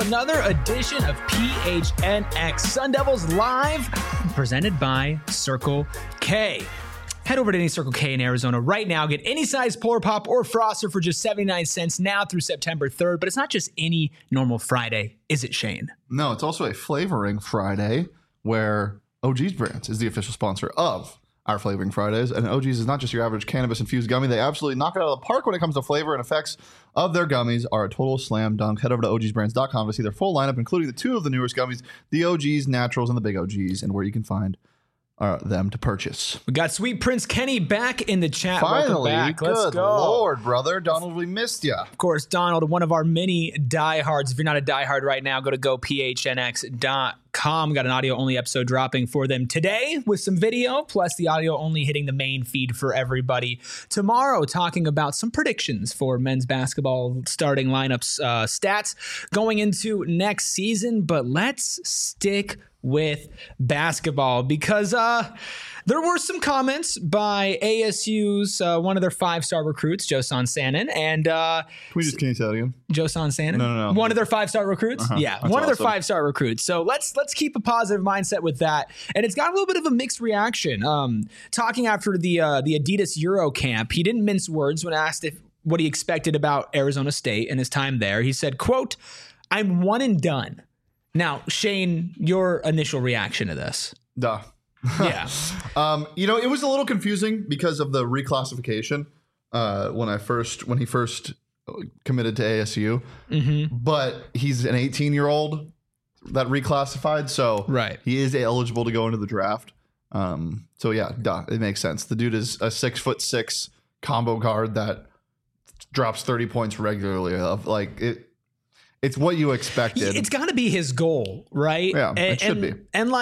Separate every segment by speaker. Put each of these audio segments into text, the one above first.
Speaker 1: another edition of PHNX Sun Devils Live, presented by Circle K. Head over to any Circle K in Arizona right now. Get any size Polar Pop or Froster for just 79 cents now through September 3rd. But it's not just any normal Friday, is it, Shane?
Speaker 2: No, it's also a flavoring Friday where OG's Brands is the official sponsor of our Flavoring Fridays. And OG's is not just your average cannabis-infused gummy. They absolutely knock it out of the park when it comes to flavor, and effects of their gummies are a total slam dunk. Head over to ogsbrands.com to see their full lineup, including the two of the newest gummies, the OG's Naturals and the Big OG's, and where you can find them to purchase.
Speaker 1: We got Sweet Prince Kenny back in the chat.
Speaker 2: Finally,
Speaker 1: welcome back. Let's
Speaker 2: good
Speaker 1: go.
Speaker 2: Lord, brother. Donald, we missed you.
Speaker 1: Of course, Donald, one of our many diehards. If you're not a diehard right now, go to gophnx.com. We got an audio-only episode dropping for them today with some video, plus the audio-only hitting the main feed for everybody. Tomorrow, talking about some predictions for men's basketball starting lineups, stats going into next season. But let's stick with basketball because there were some comments by ASU's one of their 5-star recruits, Josan Sanin, and
Speaker 2: Can you say that again?
Speaker 1: Josan Sanin?
Speaker 2: No.
Speaker 1: One of their 5-star recruits? Yeah,
Speaker 2: That's
Speaker 1: one of their
Speaker 2: awesome.
Speaker 1: 5-star recruits. So let's keep a positive mindset with that. And it's got a little bit of a mixed reaction. Talking after the Adidas Euro camp, he didn't mince words when asked what he expected about Arizona State and his time there. He said, quote, "I'm one and done." Now, Shane, your initial reaction to this?
Speaker 2: Duh.
Speaker 1: Yeah.
Speaker 2: It was a little confusing because of the reclassification when he first committed to ASU.
Speaker 1: Mm-hmm.
Speaker 2: But he's an 18-year-old that reclassified, so
Speaker 1: Right.
Speaker 2: he is eligible to go into the draft. So yeah, duh, it makes sense. The dude is a 6'6" combo guard that drops 30 points regularly. It's what you expected.
Speaker 1: It's got to be his goal, right?
Speaker 2: Yeah, it should be.
Speaker 1: And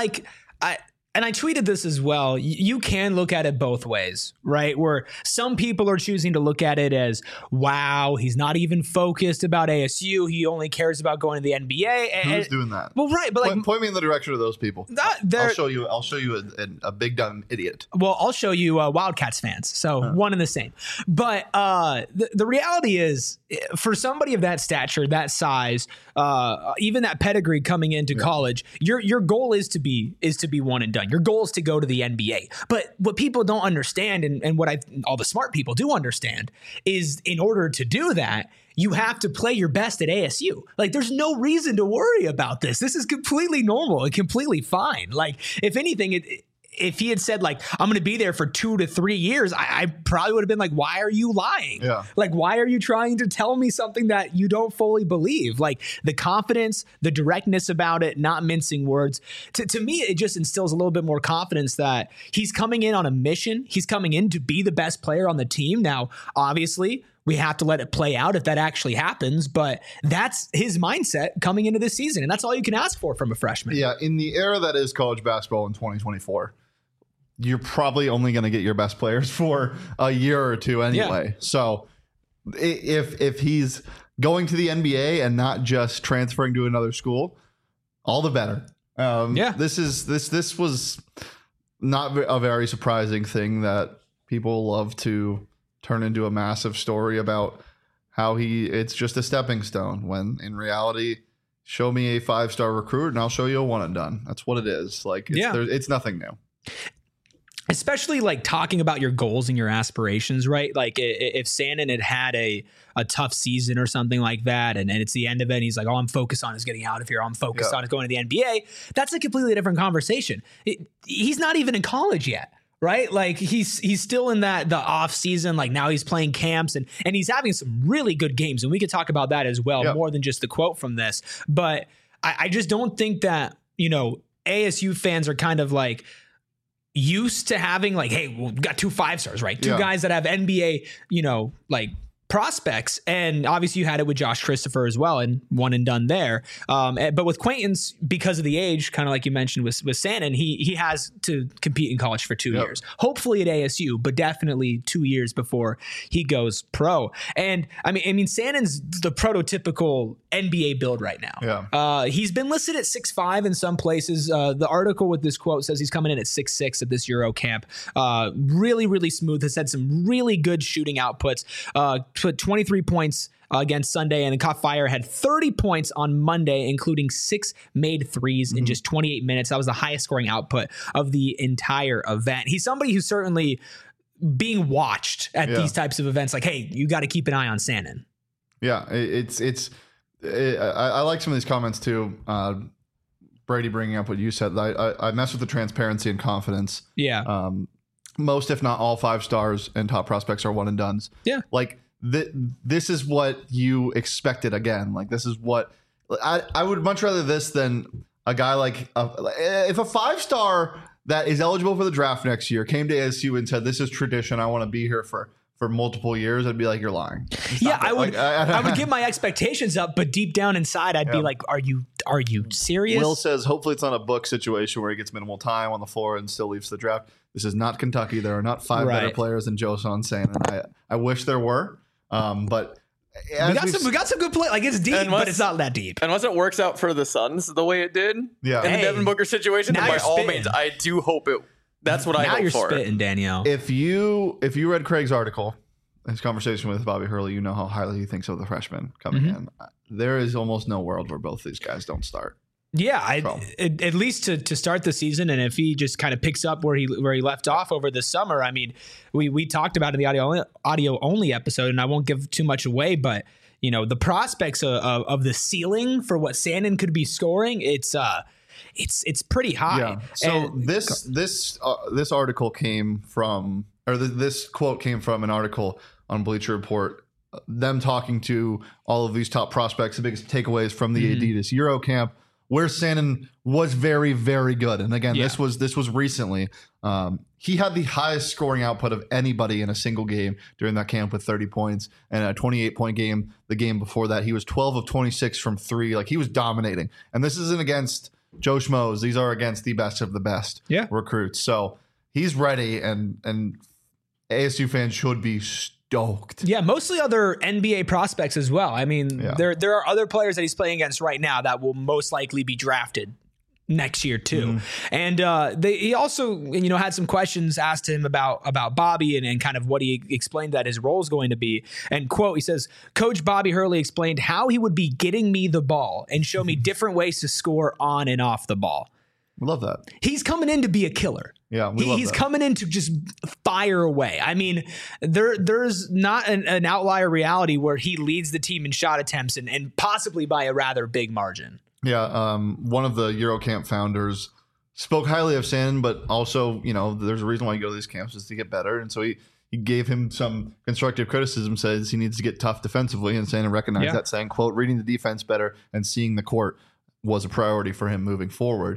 Speaker 1: I tweeted this as well. You can look at it both ways, right? Where some people are choosing to look at it as, wow, he's not even focused about ASU. He only cares about going to the NBA.
Speaker 2: Who's doing that?
Speaker 1: Well, right, but
Speaker 2: Point me in the direction of those people. I'll show you a big dumb idiot.
Speaker 1: Well, I'll show you Wildcats fans. So one and the same. But the reality is, for somebody of that stature, that size, even that pedigree coming into college, your goal is to be one and done. Your goal is to go to the NBA. But what people don't understand, and what all the smart people do understand, is in order to do that, you have to play your best at ASU. Like, there's no reason to worry about this. This is completely normal and completely fine. Like, if anything, if he had said, like, I'm going to be there for 2 to 3 years, I probably would have been like, why are you lying?
Speaker 2: Yeah.
Speaker 1: Like, why are you trying to tell me something that you don't fully believe? Like, the confidence, the directness about it, not mincing words. To me, it just instills a little bit more confidence that he's coming in on a mission. He's coming in to be the best player on the team. Now, obviously, we have to let it play out if that actually happens, but that's his mindset coming into this season, and that's all you can ask for from a freshman.
Speaker 2: Yeah, in the era that is college basketball in 2024, you're probably only going to get your best players for a year or two anyway. Yeah. So if he's going to the NBA and not just transferring to another school, all the better. This was not a very surprising thing that people love to turn into a massive story about how it's just a stepping stone, when in reality, show me a 5-star recruit and I'll show you a one and done. That's what it is. Like, it's nothing new.
Speaker 1: Especially like talking about your goals and your aspirations, right? Like if Sanin had a tough season or something like that, and it's the end of it, and he's like, all I'm focused on is getting out of here. All I'm focused on is going to the NBA. That's a completely different conversation. He's not even in college yet. Right? Like he's still in the off season. Like, now he's playing camps and he's having some really good games. And we could talk about that as well, more than just the quote from this. But I just don't think that, ASU fans are kind of like used to having like, hey, well, we got 2 5-stars, right? 2 guys that have NBA, like prospects. And obviously you had it with Josh Christopher as well, and one and done there. But with Quaintance, because of the age, kind of like you mentioned with Sanin, he has to compete in college for 2 years, hopefully at ASU, but definitely 2 years before he goes pro. And I mean, Sanin's the prototypical NBA build right now.
Speaker 2: Yeah.
Speaker 1: He's been listed at 6'5" in some places. The article with this quote says he's coming in at 6'6" at this Euro camp. Really, really smooth. Has had some really good shooting outputs. put 23 points against Sunday, and then caught fire, had 30 points on Monday, including 6 made threes in just 28 minutes. That was the highest scoring output of the entire event. He's somebody who's certainly being watched at these types of events. Like, hey, you got to keep an eye on Sandin.
Speaker 2: Yeah, I like some of these comments too. Brady bringing up what you said. I mess with the transparency and confidence.
Speaker 1: Yeah.
Speaker 2: Most, if not all, 5 stars and top prospects are one and dones.
Speaker 1: Yeah.
Speaker 2: Like this is what you expected again. Like this is what I would much rather this than a guy like if a 5-star that is eligible for the draft next year came to ASU and said, this is tradition, I want to be here for multiple years, I'd be like, you're lying.
Speaker 1: I would get my expectations up, but deep down inside, I'd be like, are you serious?
Speaker 2: Will says, hopefully it's not a book situation where he gets minimal time on the floor and still leaves the draft. This is not Kentucky. There are not 5 better players than Josan Sandin. I wish there were, but
Speaker 1: we got some good play. Like, it's deep, but it's not that deep.
Speaker 3: Unless it works out for the Suns the way it did in the Devin Booker situation, then by all means, I do hope it. That's what I hope for. Now
Speaker 1: you're spitting, Danielle.
Speaker 2: If you read Craig's article, his conversation with Bobby Hurley, you know how highly he thinks of the freshman coming in. There is almost no world where both these guys don't start.
Speaker 1: Yeah, at least to start the season, and if he just kind of picks up where he left off over the summer, I mean, we talked about it in the audio only episode, and I won't give too much away, but you know the prospects of the ceiling for what Sandin could be scoring, it's pretty high.
Speaker 2: Yeah. So this article came from, or this quote came from an article on Bleacher Report. Them talking to all of these top prospects, the biggest takeaways from the Adidas Euro camp, where Sandin was very, very good. And again, this was recently. He had the highest scoring output of anybody in a single game during that camp with 30 points and a 28-point game. The game before that, he was 12 of 26 from 3. Like, he was dominating. And this isn't against Joe Schmoes. These are against the best of the best recruits. So he's ready, and ASU fans should be stoked.
Speaker 1: Yeah, mostly other NBA prospects as well. I mean, there are other players that he's playing against right now that will most likely be drafted next year too. And he also, had some questions asked to him about Bobby and kind of what he explained that his role is going to be. And quote, he says, Coach Bobby Hurley explained how he would be getting me the ball and show me different ways to score on and off the ball.
Speaker 2: We love that.
Speaker 1: He's coming in to be a killer.
Speaker 2: Yeah,
Speaker 1: he's coming in to just fire away. I mean, there's not an outlier reality where he leads the team in shot attempts and possibly by a rather big margin.
Speaker 2: Yeah, one of the Eurocamp founders spoke highly of Sandin, but also, there's a reason why you go to these camps is to get better. And so he gave him some constructive criticism, says he needs to get tough defensively, and Sandin recognized that, saying, quote, reading the defense better and seeing the court was a priority for him moving forward.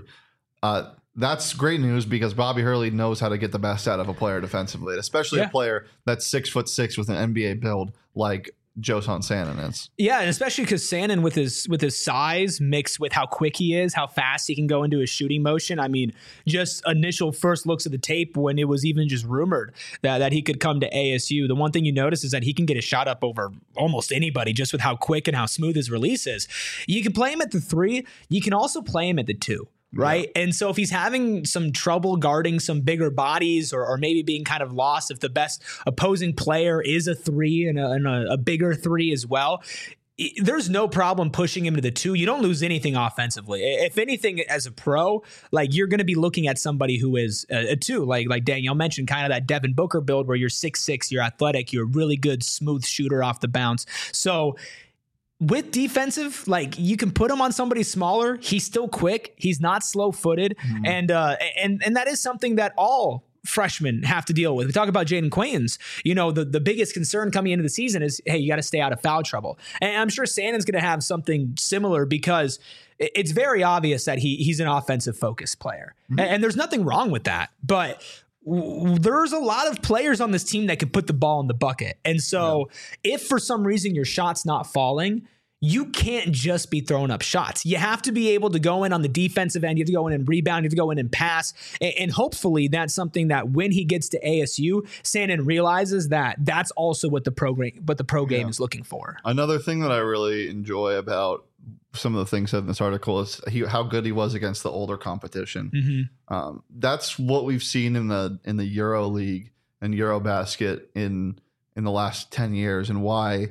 Speaker 2: That's great news because Bobby Hurley knows how to get the best out of a player defensively, especially a player that's 6'6" with an NBA build like Josan Sandin is.
Speaker 1: Yeah, and especially because Sandin with his size mixed with how quick he is, how fast he can go into his shooting motion. I mean, just initial first looks at the tape when it was even just rumored that he could come to ASU. The one thing you notice is that he can get a shot up over almost anybody just with how quick and how smooth his release is. You can play him at the 3. You can also play him at the 2. Right. Yeah. And so if he's having some trouble guarding some bigger bodies or maybe being kind of lost, if the best opposing player is a 3 and a bigger 3 as well, there's no problem pushing him to the 2. You don't lose anything offensively. If anything, as a pro, like you're going to be looking at somebody who is a 2, like Danielle mentioned, kind of that Devin Booker build where you're 6'6", you're athletic, you're a really good smooth shooter off the bounce. So with defensive, like you can put him on somebody smaller. He's still quick. He's not slow-footed, and that is something that all freshmen have to deal with. We talk about Jaden Quaintance. The biggest concern coming into the season is, hey, you got to stay out of foul trouble. And I'm sure Sandin's going to have something similar because it's very obvious that he's an offensive focused player, and there's nothing wrong with that, but there's a lot of players on this team that can put the ball in the bucket. And so if for some reason your shot's not falling, you can't just be throwing up shots. You have to be able to go in on the defensive end. You have to go in and rebound. You have to go in and pass. And hopefully that's something that when he gets to ASU, Sandin realizes that that's also what the pro game is looking for.
Speaker 2: Another thing that I really enjoy about some of the things said in this article is how good he was against the older competition. That's what we've seen in the Euro League and Eurobasket in in the last 10 years and why,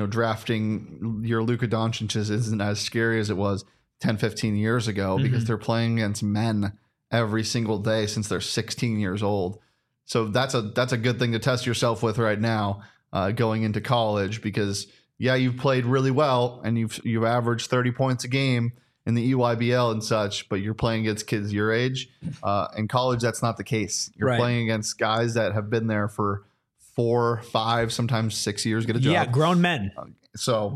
Speaker 2: drafting your Luka Doncic isn't as scary as it was 10, 15 years ago because they're playing against men every single day since they're 16 years old. So that's a good thing to test yourself with right now, going into college, because you've played really well and you've averaged 30 points a game in the EYBL and such, but you're playing against kids your age. In college, that's not the case. You're playing against guys that have been there for 4, 5, sometimes 6 years, get a job.
Speaker 1: Yeah, grown men.
Speaker 2: So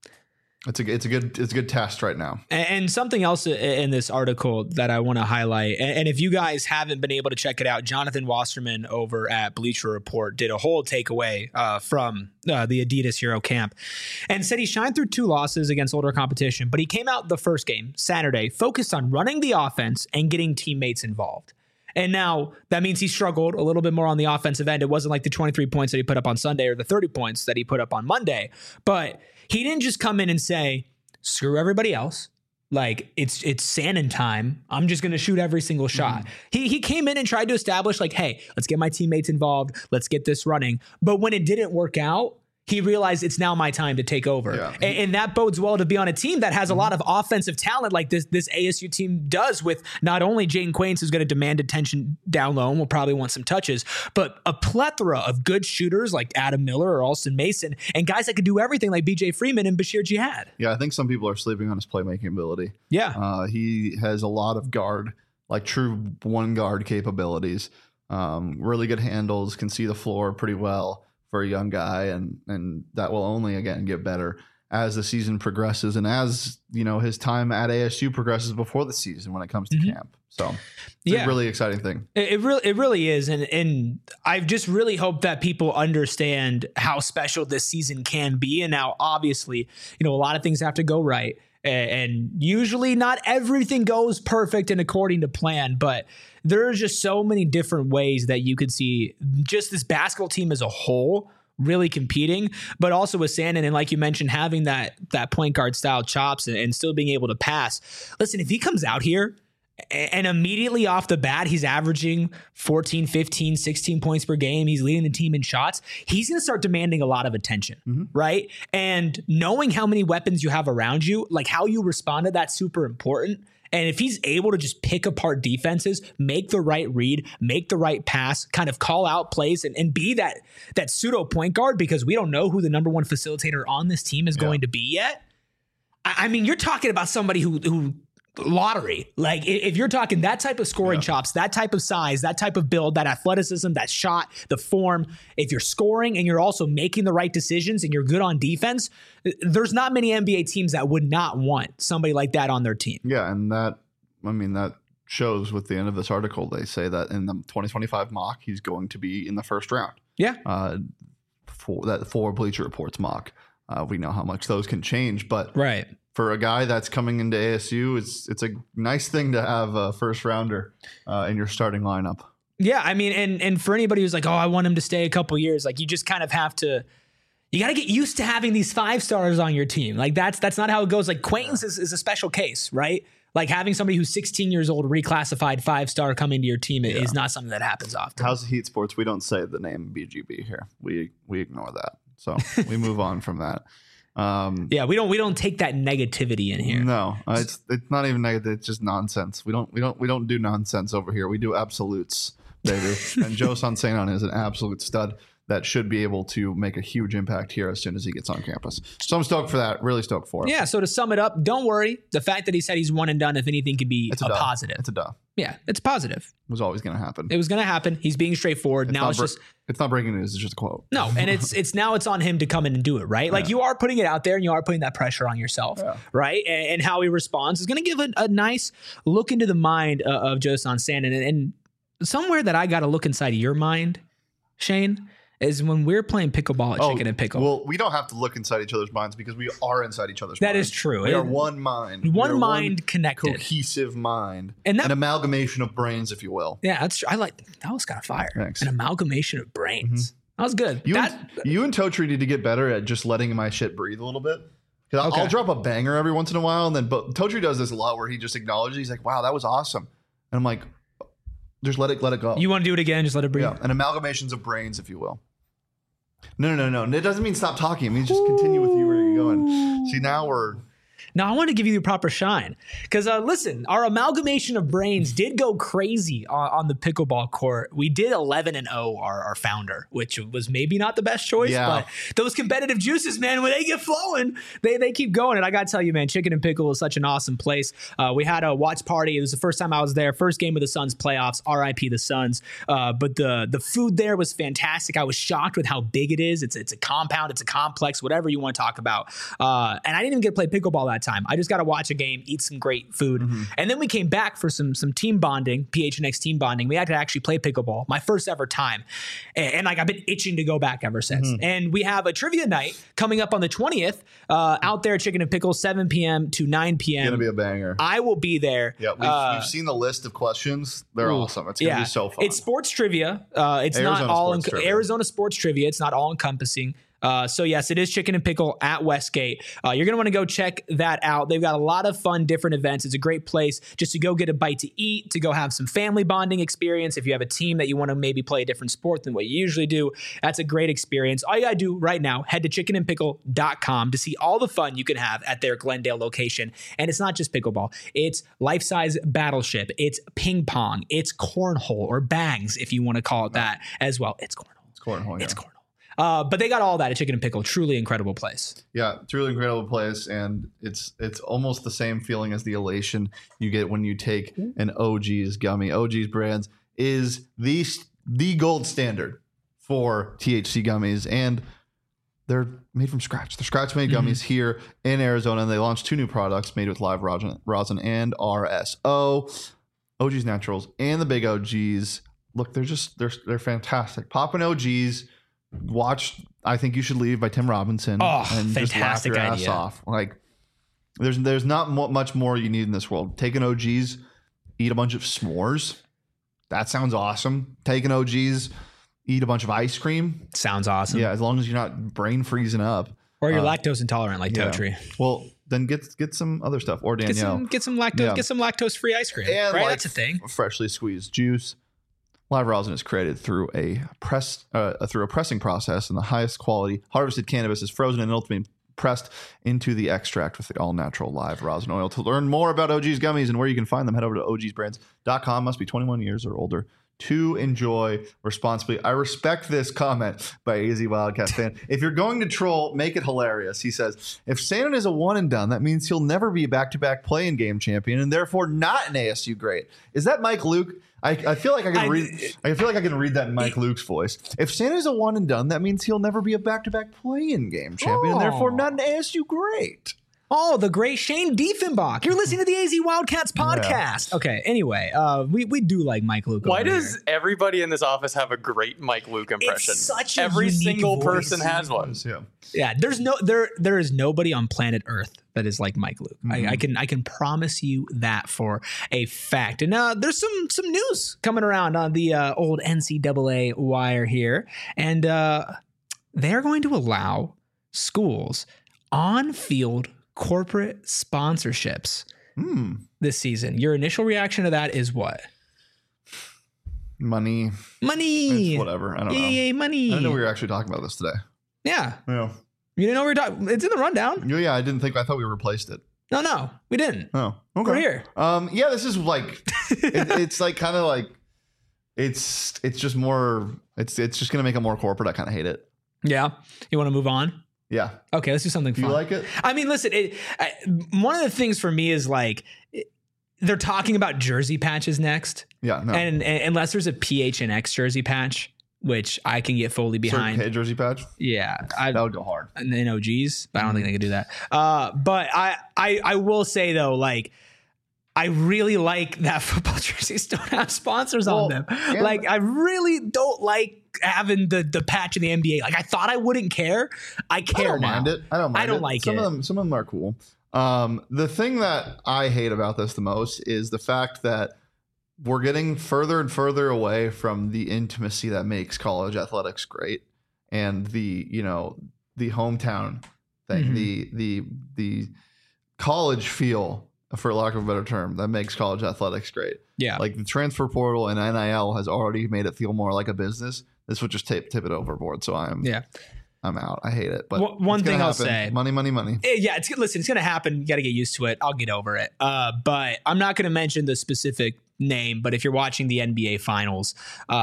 Speaker 2: it's a good test right now.
Speaker 1: And something else in this article that I want to highlight, and if you guys haven't been able to check it out, Jonathan Wasserman over at Bleacher Report did a whole takeaway from the Adidas Hero Camp and said he shined through 2 losses against older competition, but he came out the first game, Saturday, focused on running the offense and getting teammates involved. And now that means he struggled a little bit more on the offensive end. It wasn't like the 23 points that he put up on Sunday or the 30 points that he put up on Monday, but he didn't just come in and say, screw everybody else. Like it's Sannon time. I'm just going to shoot every single shot. He came in and tried to establish like, hey, let's get my teammates involved. Let's get this running. But when it didn't work out, he realized it's now my time to take over. Yeah. And that bodes well to be on a team that has a lot of offensive talent like this ASU team does, with not only Jaden Quains, who's going to demand attention down low and will probably want some touches, but a plethora of good shooters like Adam Miller or Alston Mason and guys that could do everything like BJ Freeman and Bashir Jihad.
Speaker 2: Yeah, I think some people are sleeping on his playmaking ability.
Speaker 1: Yeah.
Speaker 2: He has a lot of guard, like true one guard capabilities, really good handles, can see the floor pretty well for a young guy, and that will only again get better as the season progresses and as his time at ASU progresses before the season when it comes to camp. So it's a really exciting thing.
Speaker 1: It really is, and I just really hope that people understand how special this season can be. And now, obviously, a lot of things have to go right. And usually not everything goes perfect and according to plan, but there's just so many different ways that you could see just this basketball team as a whole really competing, but also with Sannon, and like you mentioned, having that point guard style chops and still being able to pass. Listen, if he comes out here and immediately off the bat, he's averaging 14, 15, 16 points per game. He's leading the team in shots. He's going to start demanding a lot of attention, right? And knowing how many weapons you have around you, like how you respond to that's super important. And if he's able to just pick apart defenses, make the right read, make the right pass, kind of call out plays and be that pseudo point guard, because we don't know who the number one facilitator on this team is going to be yet. I mean, you're talking about somebody who lottery. Like if you're talking that type of scoring chops, that type of size, that type of build, that athleticism, that shot, the form, if you're scoring and you're also making the right decisions and you're good on defense, there's not many NBA teams that would not want somebody like that on their team.
Speaker 2: Yeah. And that shows with the end of this article. They say that in the 2025 mock, he's going to be in the first round.
Speaker 1: Yeah.
Speaker 2: For Bleacher Report's mock. We know how much those can change, but
Speaker 1: right.
Speaker 2: For a guy that's coming into ASU, it's a nice thing to have a first rounder in your starting lineup.
Speaker 1: Yeah, I mean, and for anybody who's like, oh, I want him to stay a couple years, like you just kind of have to, you got to get used to having these 5-stars on your team. Like that's not how it goes. Like Quaintance is a special case, right? Like having somebody who's 16 years old, reclassified 5-star come into your team is not something that happens often.
Speaker 2: How's the Heat Sports? We don't say the name BGB here. We ignore that. So we move on from that.
Speaker 1: We don't take that negativity in here.
Speaker 2: No, it's not even negative. It's just nonsense. We don't do nonsense over here. We do absolutes, baby. And Joe Sansenon is an absolute stud that should be able to make a huge impact here as soon as he gets on campus. So I'm stoked for that. Really stoked for it.
Speaker 1: Yeah. So to sum it up, don't worry. The fact that he said he's one and done, if anything, can be a positive.
Speaker 2: It's a duh.
Speaker 1: Yeah, it's positive.
Speaker 2: It was always going to happen.
Speaker 1: It was going to happen. He's being straightforward.
Speaker 2: It's not breaking news. It's just a quote.
Speaker 1: No, and it's on him to come in and do it, right? Like you are putting it out there and you are putting that pressure on yourself, right? And how he responds is going to give a nice look into the mind of Joe Sansenon. And somewhere that I got to look inside of your mind, Shane, is when we're playing pickleball at Chicken and Pickle.
Speaker 2: Well, we don't have to look inside each other's minds because we are inside each other's minds.
Speaker 1: That is true.
Speaker 2: We are one mind.
Speaker 1: One mind connected.
Speaker 2: Cohesive mind. And an amalgamation of brains, if you will.
Speaker 1: Yeah, that's true. That was kind of fire.
Speaker 2: Thanks.
Speaker 1: An amalgamation of brains. That was good.
Speaker 2: You and Totri need to get better at just letting my shit breathe a little bit. Because I'll drop a banger every once in a while, and then Totri does this a lot where he just acknowledges. He's like, wow, that was awesome. And I'm like, just let it go.
Speaker 1: You want to do it again? Just let it breathe.
Speaker 2: Yeah, an amalgamations of brains, if you will. No. It doesn't mean stop talking. It means just continue with you where you're going. See, now we're...
Speaker 1: Now, I want to give you the proper shine because, listen, our amalgamation of brains did go crazy on the pickleball court. We did 11-0, our founder, which was maybe not the best choice, but those competitive juices, man, when they get flowing, they keep going. And I got to tell you, man, Chicken and Pickle is such an awesome place. We had a watch party. It was the first time I was there. First game of the Suns playoffs, RIP the Suns. But the food there was fantastic. I was shocked with how big it is. It's a compound. It's a complex, whatever you want to talk about. And I didn't even get to play pickleball that time. I just got to watch a game, eat some great food. And then we came back for some team bonding, PHNX team bonding. We had to actually play pickleball, my first ever time. And like, I've been itching to go back ever since. And we have a trivia night coming up on the 20th out there at Chicken and Pickle, 7 p.m. to 9 p.m.
Speaker 2: It's going to be a banger.
Speaker 1: I will be there.
Speaker 2: Yeah, we've seen the list of questions. They're awesome. It's going to be so fun.
Speaker 1: It's sports trivia. It's Arizona not all Arizona sports trivia. It's not all encompassing. So yes, it is Chicken and Pickle at Westgate. You're going to want to go check that out. They've got a lot of fun, different events. It's a great place just to go get a bite to eat, to go have some family bonding experience. If you have a team that you want to maybe play a different sport than what you usually do, that's a great experience. All you got to do right now, head to chickenandpickle.com to see all the fun you can have at their Glendale location. And it's not just pickleball. It's life-size battleship. It's ping pong. It's cornhole or bangs, if you want to call it that as well. It's cornhole.
Speaker 2: It's cornhole, yeah.
Speaker 1: It's cornhole. But they got all that at Chicken and Pickle. Truly incredible place.
Speaker 2: Yeah, truly incredible place. And it's almost the same feeling as the elation you get when you take an OG's gummy. OG's brands is the gold standard for THC gummies. And they're made from scratch. They're scratch-made gummies here in Arizona. And they launched 2 new products made with live rosin and RSO. OG's Naturals and the Big OGs. Look, they're fantastic. Poppin' OGs. Watch I Think You Should Leave by Tim Robinson and just laugh your ass off. Like there's not much more you need in this world. Take an OG's, eat a bunch of s'mores. That sounds awesome. Take an OG's, eat a bunch of ice cream.
Speaker 1: Sounds awesome.
Speaker 2: Yeah, as long as you're not brain freezing up.
Speaker 1: Or you're lactose intolerant like Totri.
Speaker 2: Well, then get some other stuff. Or Danielle.
Speaker 1: Get some lactose free ice cream.
Speaker 2: And
Speaker 1: right? That's a thing.
Speaker 2: Freshly squeezed juice. Live rosin is created through a pressing process, and the highest quality harvested cannabis is frozen and ultimately pressed into the extract with the all-natural live rosin oil. To learn more about OG's gummies and where you can find them, head over to ogsbrands.com. Must be 21 years or older to enjoy responsibly. I respect this comment by AZ Wildcat fan. If you're going to troll, make it hilarious. He says, if Sandin is a one and done, that means he'll never be a back-to-back play-in game champion and therefore not an ASU great. Is that Mike Luke? I feel like I can read that in Mike Luke's voice. If Santa's a one and done, that means he'll never be a back-to-back play-in game champion, and therefore not an ASU great.
Speaker 1: Oh, the great Shane Diefenbach. You're listening to the AZ Wildcats podcast. Yeah. Okay, anyway, we do like Mike Luke.
Speaker 3: Why does everybody in this office have a great Mike Luke impression?
Speaker 1: It's such a
Speaker 3: Every single
Speaker 1: voice.
Speaker 3: Person has one.
Speaker 1: Yeah, there is nobody on planet Earth that is like Mike Luke. I can promise you that for a fact. And there's some news coming around on the old NCAA wire here, and they're going to allow schools on-field corporate sponsorships this season. Your initial reaction to that is what?
Speaker 2: Money.
Speaker 1: It's
Speaker 2: whatever. I don't know.
Speaker 1: Yay, money.
Speaker 2: I didn't know we were actually talking about this today.
Speaker 1: Yeah. You didn't know we were talking? It's in the rundown.
Speaker 2: Yeah, I thought we replaced it.
Speaker 1: No, we didn't.
Speaker 2: Oh, okay.
Speaker 1: We're here.
Speaker 2: Yeah, this is like, it's like kind of like, it's just more, it's just going to make it more corporate. I kind of hate it.
Speaker 1: Yeah. You want to move on?
Speaker 2: Yeah.
Speaker 1: Okay, let's do something fun.
Speaker 2: You like it?
Speaker 1: I mean, listen, one of the things for me is like, they're talking about jersey patches next.
Speaker 2: Yeah. No.
Speaker 1: And unless there's a PHNX jersey patch, which I can get fully behind.
Speaker 2: Certain K jersey patch?
Speaker 1: Yeah.
Speaker 2: That would go hard.
Speaker 1: And then OGs, but I don't think they could do that. But I will say though, like, I really like that football jerseys don't have sponsors on them. Yeah. Like, I really don't like having the patch in the NBA. Like, I thought I wouldn't care. I care now.
Speaker 2: I don't mind it. I don't like it. Some of them are cool. The thing that I hate about this the most is the fact that we're getting further and further away from the intimacy that makes college athletics great, and the hometown thing, the college feel, for lack of a better term, that makes college athletics great.
Speaker 1: Yeah.
Speaker 2: Like the transfer portal and NIL has already made it feel more like a business this would just tip it overboard. So I'm out. I hate it. But
Speaker 1: one thing I'll say,
Speaker 2: money.
Speaker 1: Yeah, it's going to happen. You got to get used to it. I'll get over it. But I'm not going to mention the specific name. But if you're watching the NBA Finals,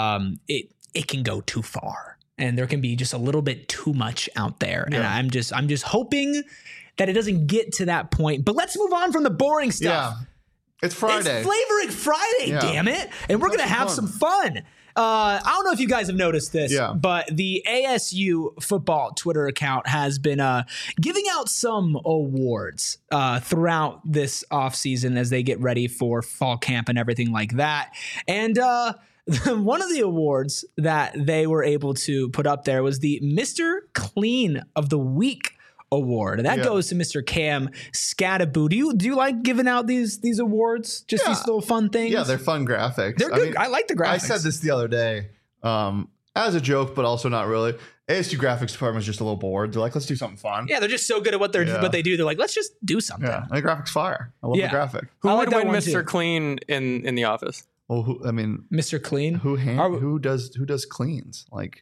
Speaker 1: it can go too far, and there can be just a little bit too much out there. Yeah. And I'm just hoping that it doesn't get to that point. But let's move on from the boring stuff.
Speaker 2: Yeah. It's Friday.
Speaker 1: It's Flavoring Friday, damn it. And we're going to have some fun. I don't know if you guys have noticed this, but the ASU football Twitter account has been giving out some awards throughout this offseason as they get ready for fall camp and everything like that. And one of the awards that they were able to put up there was the Mr. Clean of the Week award. That goes to Mr. Cam Scadaboo. Do you like giving out these awards? Just these little fun things?
Speaker 2: Yeah, they're fun graphics.
Speaker 1: They're good. I like the graphics.
Speaker 2: I said this the other day as a joke, but also not really. ASU graphics department is just a little bored. They're like, let's do something fun.
Speaker 1: Yeah, they're just so good at what they do. They're like, let's just do something.
Speaker 2: Yeah, and the graphics fire. I love the graphic.
Speaker 3: Who would win Mr. Clean in the office?
Speaker 2: Well,
Speaker 1: Mr. Clean.
Speaker 2: Who does cleans? Like,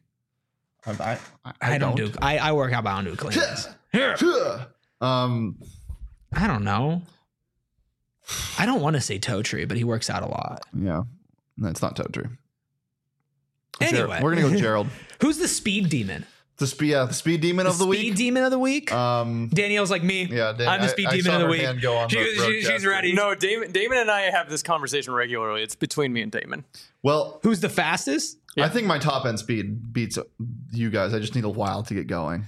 Speaker 2: I don't do.
Speaker 1: I work out, but I don't do cleans. I don't know. I don't want to say Totri, but he works out a lot.
Speaker 2: Yeah, no, it's not Totri.
Speaker 1: Anyway,
Speaker 2: we're gonna go with Gerald.
Speaker 1: Who's the speed demon?
Speaker 2: The speed demon of the week.
Speaker 1: Speed demon of the week. Danielle's like me.
Speaker 2: Yeah,
Speaker 1: I'm the speed demon of the week. She's ready.
Speaker 3: No, Damon and I have this conversation regularly. It's between me and Damon.
Speaker 2: Well,
Speaker 1: who's the fastest?
Speaker 2: I think my top end speed beats you guys. I just need a while to get going.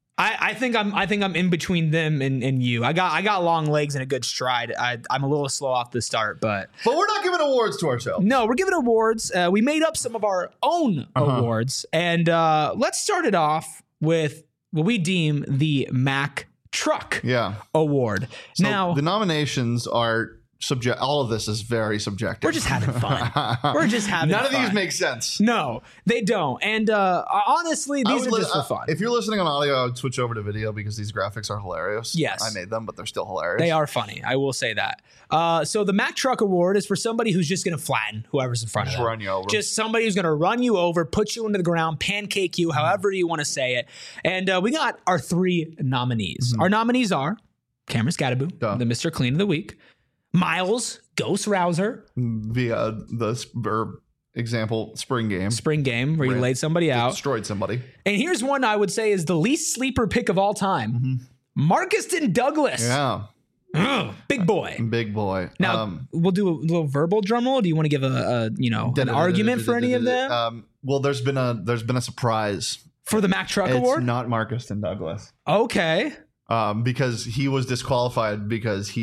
Speaker 1: I think I'm in between them and you. I got long legs and a good stride. I'm a little slow off the start, but
Speaker 2: we're not giving awards to ourselves.
Speaker 1: No, we're giving awards. We made up some of our own awards, and let's start it off with what we deem the Mack Truck Award.
Speaker 2: So now the nominations are all of this is very subjective.
Speaker 1: We're just having fun.
Speaker 2: None of these make sense.
Speaker 1: No, they don't. And honestly, these are just for fun.
Speaker 2: If you're listening on audio, I would switch over to video because these graphics are hilarious.
Speaker 1: Yes.
Speaker 2: I made them, but they're still hilarious.
Speaker 1: They are funny. I will say that. So the Mack Truck Award is for somebody who's just going to flatten whoever's in front of them.
Speaker 2: Run you over.
Speaker 1: Just somebody who's going to run you over, put you into the ground, pancake you, however you want to say it. And we got our 3 nominees. Our nominees are Cameron Scadaboo, the Mr. Clean of the Week, Miles Ghost Rouser
Speaker 2: via the example spring game
Speaker 1: where you laid somebody out,
Speaker 2: destroyed somebody.
Speaker 1: And here's one I would say is the least sleeper pick of all time. Marcuston Douglas.
Speaker 2: Yeah.
Speaker 1: Big boy. Now we'll do a little verbal drum roll. Do you want to give an argument for any of them?
Speaker 2: Well, there's been a surprise
Speaker 1: for the Mack Truck Award.
Speaker 2: It's not Marcuston Douglas.
Speaker 1: Okay.
Speaker 2: Because he was disqualified because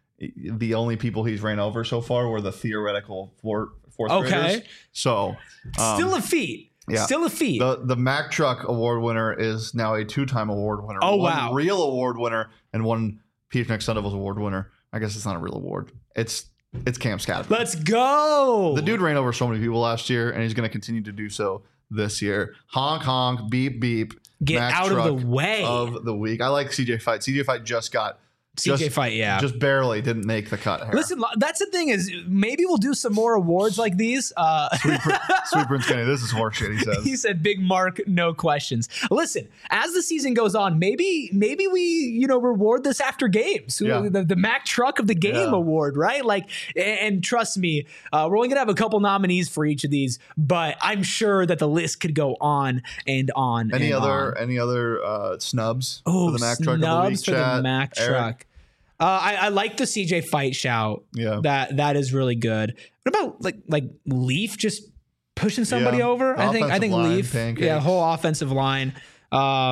Speaker 2: the only people he's ran over so far were the theoretical fourth graders. So
Speaker 1: still a feat.
Speaker 2: Yeah.
Speaker 1: Still a feat.
Speaker 2: The Mack Truck Award winner is now a 2-time award winner.
Speaker 1: Oh,
Speaker 2: one real award winner and one Phoenix Sun Devils award winner. I guess it's not a real award. It's Cam Scadaboo.
Speaker 1: Let's go.
Speaker 2: The dude ran over so many people last year, and he's going to continue to do so this year. Honk, honk, beep, beep.
Speaker 1: Get
Speaker 2: Mack
Speaker 1: out
Speaker 2: Truck
Speaker 1: of the way.
Speaker 2: Of the week. I like CJ Fight. CJ Fight just got...
Speaker 1: Fight, yeah.
Speaker 2: Just barely didn't make the cut here.
Speaker 1: Listen, that's the thing is maybe we'll do some more awards like these.
Speaker 2: Sweet Prince Kenny, this is horseshit, he says.
Speaker 1: He said, Big Mark, no questions. Listen, as the season goes on, maybe we, reward this after games. The Mack Truck of the Game Award, right? Like, and trust me, we're only going to have a couple nominees for each of these, but I'm sure that the list could go on and on.
Speaker 2: Any other snubs for the Mack Truck of the Week?
Speaker 1: For the Mack Truck. I like the CJ Fight shout.
Speaker 2: Yeah,
Speaker 1: that is really good. What about like Leaf just pushing somebody over? I think Leaf. Pancakes. Whole offensive line. I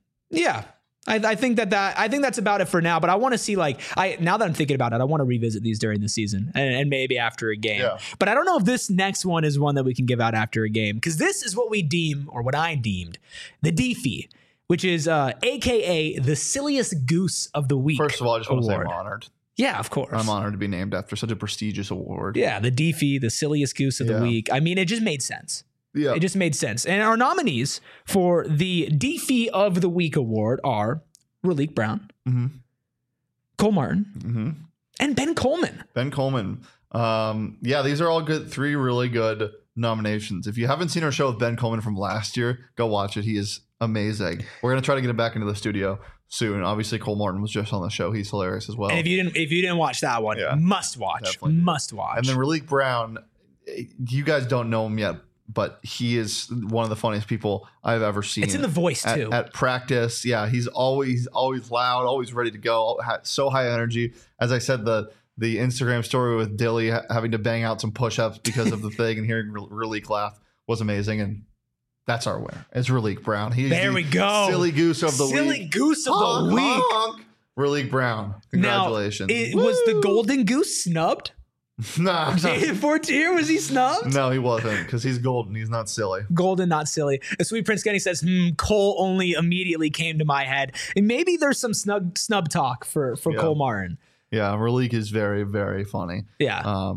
Speaker 1: think that's about it for now. But I want to see now that I'm thinking about it, I want to revisit these during the season and maybe after a game. Yeah. But I don't know if this next one is one that we can give out after a game because this is what we deem or what I deemed the DeFi, which is AKA the silliest goose of the week.
Speaker 2: First of all, I just want to say I'm honored.
Speaker 1: Yeah, of course.
Speaker 2: I'm honored to be named after such a prestigious award.
Speaker 1: Yeah, the DeFi, the silliest goose of the week. I mean, it just made sense.
Speaker 2: Yeah.
Speaker 1: It just made sense. And our nominees for the DeFi of the Week award are Raleek Brown, Cole Martin, and Ben Coleman.
Speaker 2: Ben Coleman. Yeah, these are all good. 3 really good nominations. If you haven't seen our show with Ben Coleman from last year, go watch it. He is amazing. We're gonna try to get him back into the studio soon. Obviously, Cole Martin was just on the show. He's hilarious as well.
Speaker 1: And if you didn't watch that one, must watch. Must watch.
Speaker 2: And then Raleek Brown, you guys don't know him yet, but he is one of the funniest people I've ever seen.
Speaker 1: It's in the voice too.
Speaker 2: At practice, yeah, he's always loud, always ready to go, so high energy. As I said, the Instagram story with Dilly having to bang out some push-ups because of the thing and hearing Raleek laugh was amazing. And that's our winner. It's Raleek Brown.
Speaker 1: There we go.
Speaker 2: Silly goose of the week.
Speaker 1: Silly goose of the week.
Speaker 2: Raleek Brown. Congratulations.
Speaker 1: Now, was the golden goose snubbed?
Speaker 2: Nah.
Speaker 1: Jaden Fortier, was he snubbed?
Speaker 2: No, he wasn't, because he's golden. He's not silly.
Speaker 1: Golden, not silly. Sweet Prince Kenny says, Cole only immediately came to my head. And maybe there's some snub talk for Cole Martin.
Speaker 2: Yeah, Raleek is very, very funny.
Speaker 1: Yeah.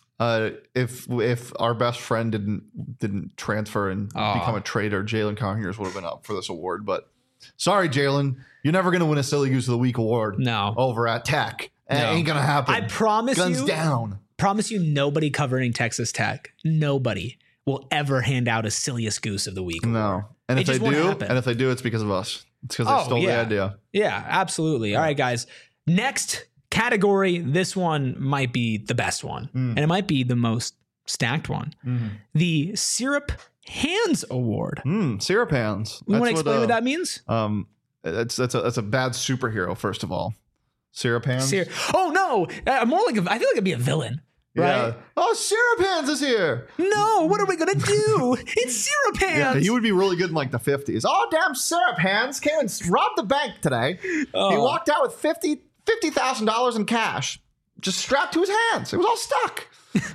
Speaker 2: If our best friend didn't transfer and become a traitor, Jalen Conyers would have been up for this award. But sorry, Jalen, you're never going to win a Silly Goose of the Week award.
Speaker 1: No.
Speaker 2: Over at Tech. It ain't going to happen.
Speaker 1: I promise
Speaker 2: Guns down.
Speaker 1: Promise you, nobody covering Texas Tech, nobody will ever hand out a Silliest Goose of the Week award.
Speaker 2: No. And if they do, it's because of us. It's because they stole the idea.
Speaker 1: Yeah, absolutely. All right, guys. Next category, this one might be the best one, and it might be the most stacked one. The Syrup Hands Award.
Speaker 2: Syrup Hands.
Speaker 1: You want to explain what that means?
Speaker 2: That's a bad superhero, first of all. Syrup Hands.
Speaker 1: Oh no, more like I feel like it'd be a villain. Right?
Speaker 2: Yeah. Oh, Syrup Hands is here.
Speaker 1: No, what are we gonna do? It's Syrup Hands.
Speaker 2: Yeah, he would be really good in like the 50s. Oh, damn, Syrup Hands came and robbed the bank today. He walked out with $50,000 in cash, just strapped to his hands. It was all stuck.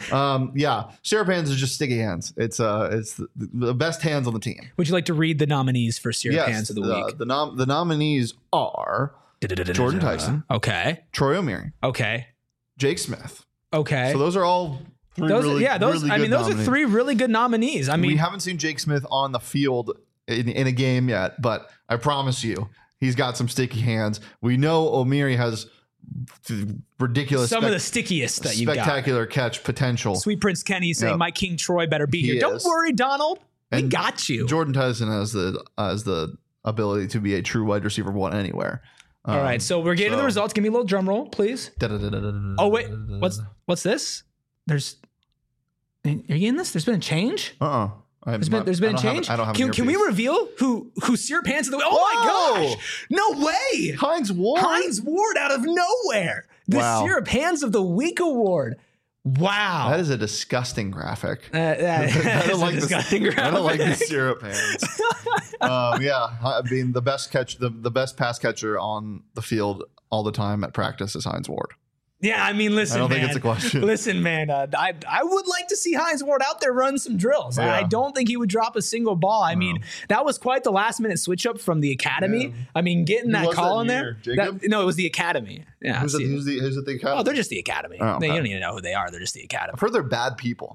Speaker 2: Syrup Hands is just sticky hands. It's the best hands on the team.
Speaker 1: Would you like to read the nominees for Syrup Hands of the week?
Speaker 2: The nominees are Jordan Tyson.
Speaker 1: Okay.
Speaker 2: Troy O'Meara.
Speaker 1: Okay.
Speaker 2: Jake Smith.
Speaker 1: Okay.
Speaker 2: So those are all
Speaker 1: those are 3 really good nominees. I mean,
Speaker 2: we haven't seen Jake Smith on the field in a game yet, but I promise you, he's got some sticky hands. We know O'Meara has ridiculous,
Speaker 1: some of the stickiest that you got.
Speaker 2: Spectacular catch potential.
Speaker 1: Sweet Prince Kenny saying, "My King Troy better be here." Don't worry, Donald. We got you.
Speaker 2: Jordan Tyson has the ability to be a true wide receiver 1 anywhere.
Speaker 1: All right, so we're getting the results. Give me a little drum roll, please. Oh wait, what's this? Are you getting this? There's been a change. There's been a change. Can we reveal who Syrup Hands of the week? Oh my gosh! No way!
Speaker 2: Hines Ward
Speaker 1: out of nowhere. The Syrup Hands of the Week award. Wow,
Speaker 2: that is a disgusting graphic.
Speaker 1: I don't like
Speaker 2: the Syrup Hands. Being the best the best pass catcher on the field all the time at practice is Hines Ward.
Speaker 1: Yeah, I mean, listen,
Speaker 2: I don't think it's a question.
Speaker 1: Listen, man, I would like to see Hines Ward out there run some drills. Yeah. I don't think he would drop a single ball. I mean, that was quite the last minute switch up from the academy. Yeah. I mean, getting that call in there. No, it was the academy. Yeah.
Speaker 2: Who's at the academy?
Speaker 1: Oh, they're just the academy. Oh, okay. You don't even know who they are. They're just the academy.
Speaker 2: I've heard they're bad people.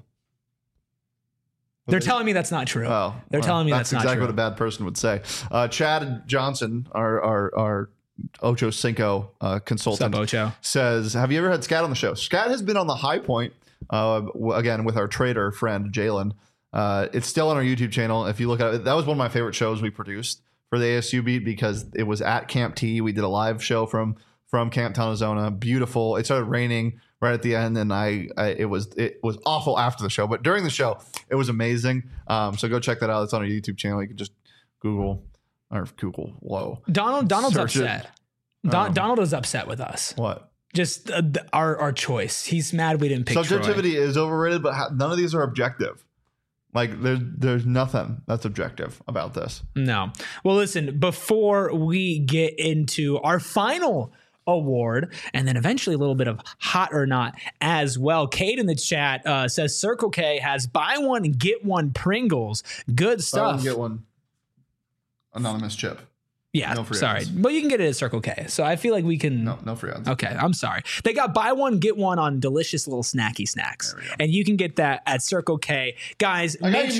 Speaker 1: They're telling me that's not true. They're telling me that's not true.
Speaker 2: That's exactly what a bad person would say. Chad Johnson, our Ocho Cinco consultant,
Speaker 1: Ocho?
Speaker 2: Says, have you ever had Scat on the show? Scat has been on the High Point, again, with our trader friend, Jalen. It's still on our YouTube channel. If you look at it, that was one of my favorite shows we produced for the ASU beat because it was at Camp T. We did a live show from Camp Tonazona. Beautiful. It started raining right at the end, and it was awful after the show, but during the show, it was amazing. So go check that out. It's on our YouTube channel. You can just Google. Whoa.
Speaker 1: Donald's upset. Donald is upset with us.
Speaker 2: What?
Speaker 1: Just our choice. He's mad we didn't pick
Speaker 2: Subjectivity
Speaker 1: Troy.
Speaker 2: Is overrated, but none of these are objective. Like there's nothing that's objective about this.
Speaker 1: No. Well, listen, before we get into our final award and then eventually a little bit of hot or not as well, Kate in the chat says Circle K has buy one and get one Pringles. Good stuff.
Speaker 2: Buy one, get one. Anonymous chip.
Speaker 1: Yeah, no sorry. Ads. But you can get it at Circle K. So I feel like we can...
Speaker 2: No free ads.
Speaker 1: Okay, I'm sorry. They got buy one, get one on delicious little snacky snacks. And you can get that at Circle K. Guys,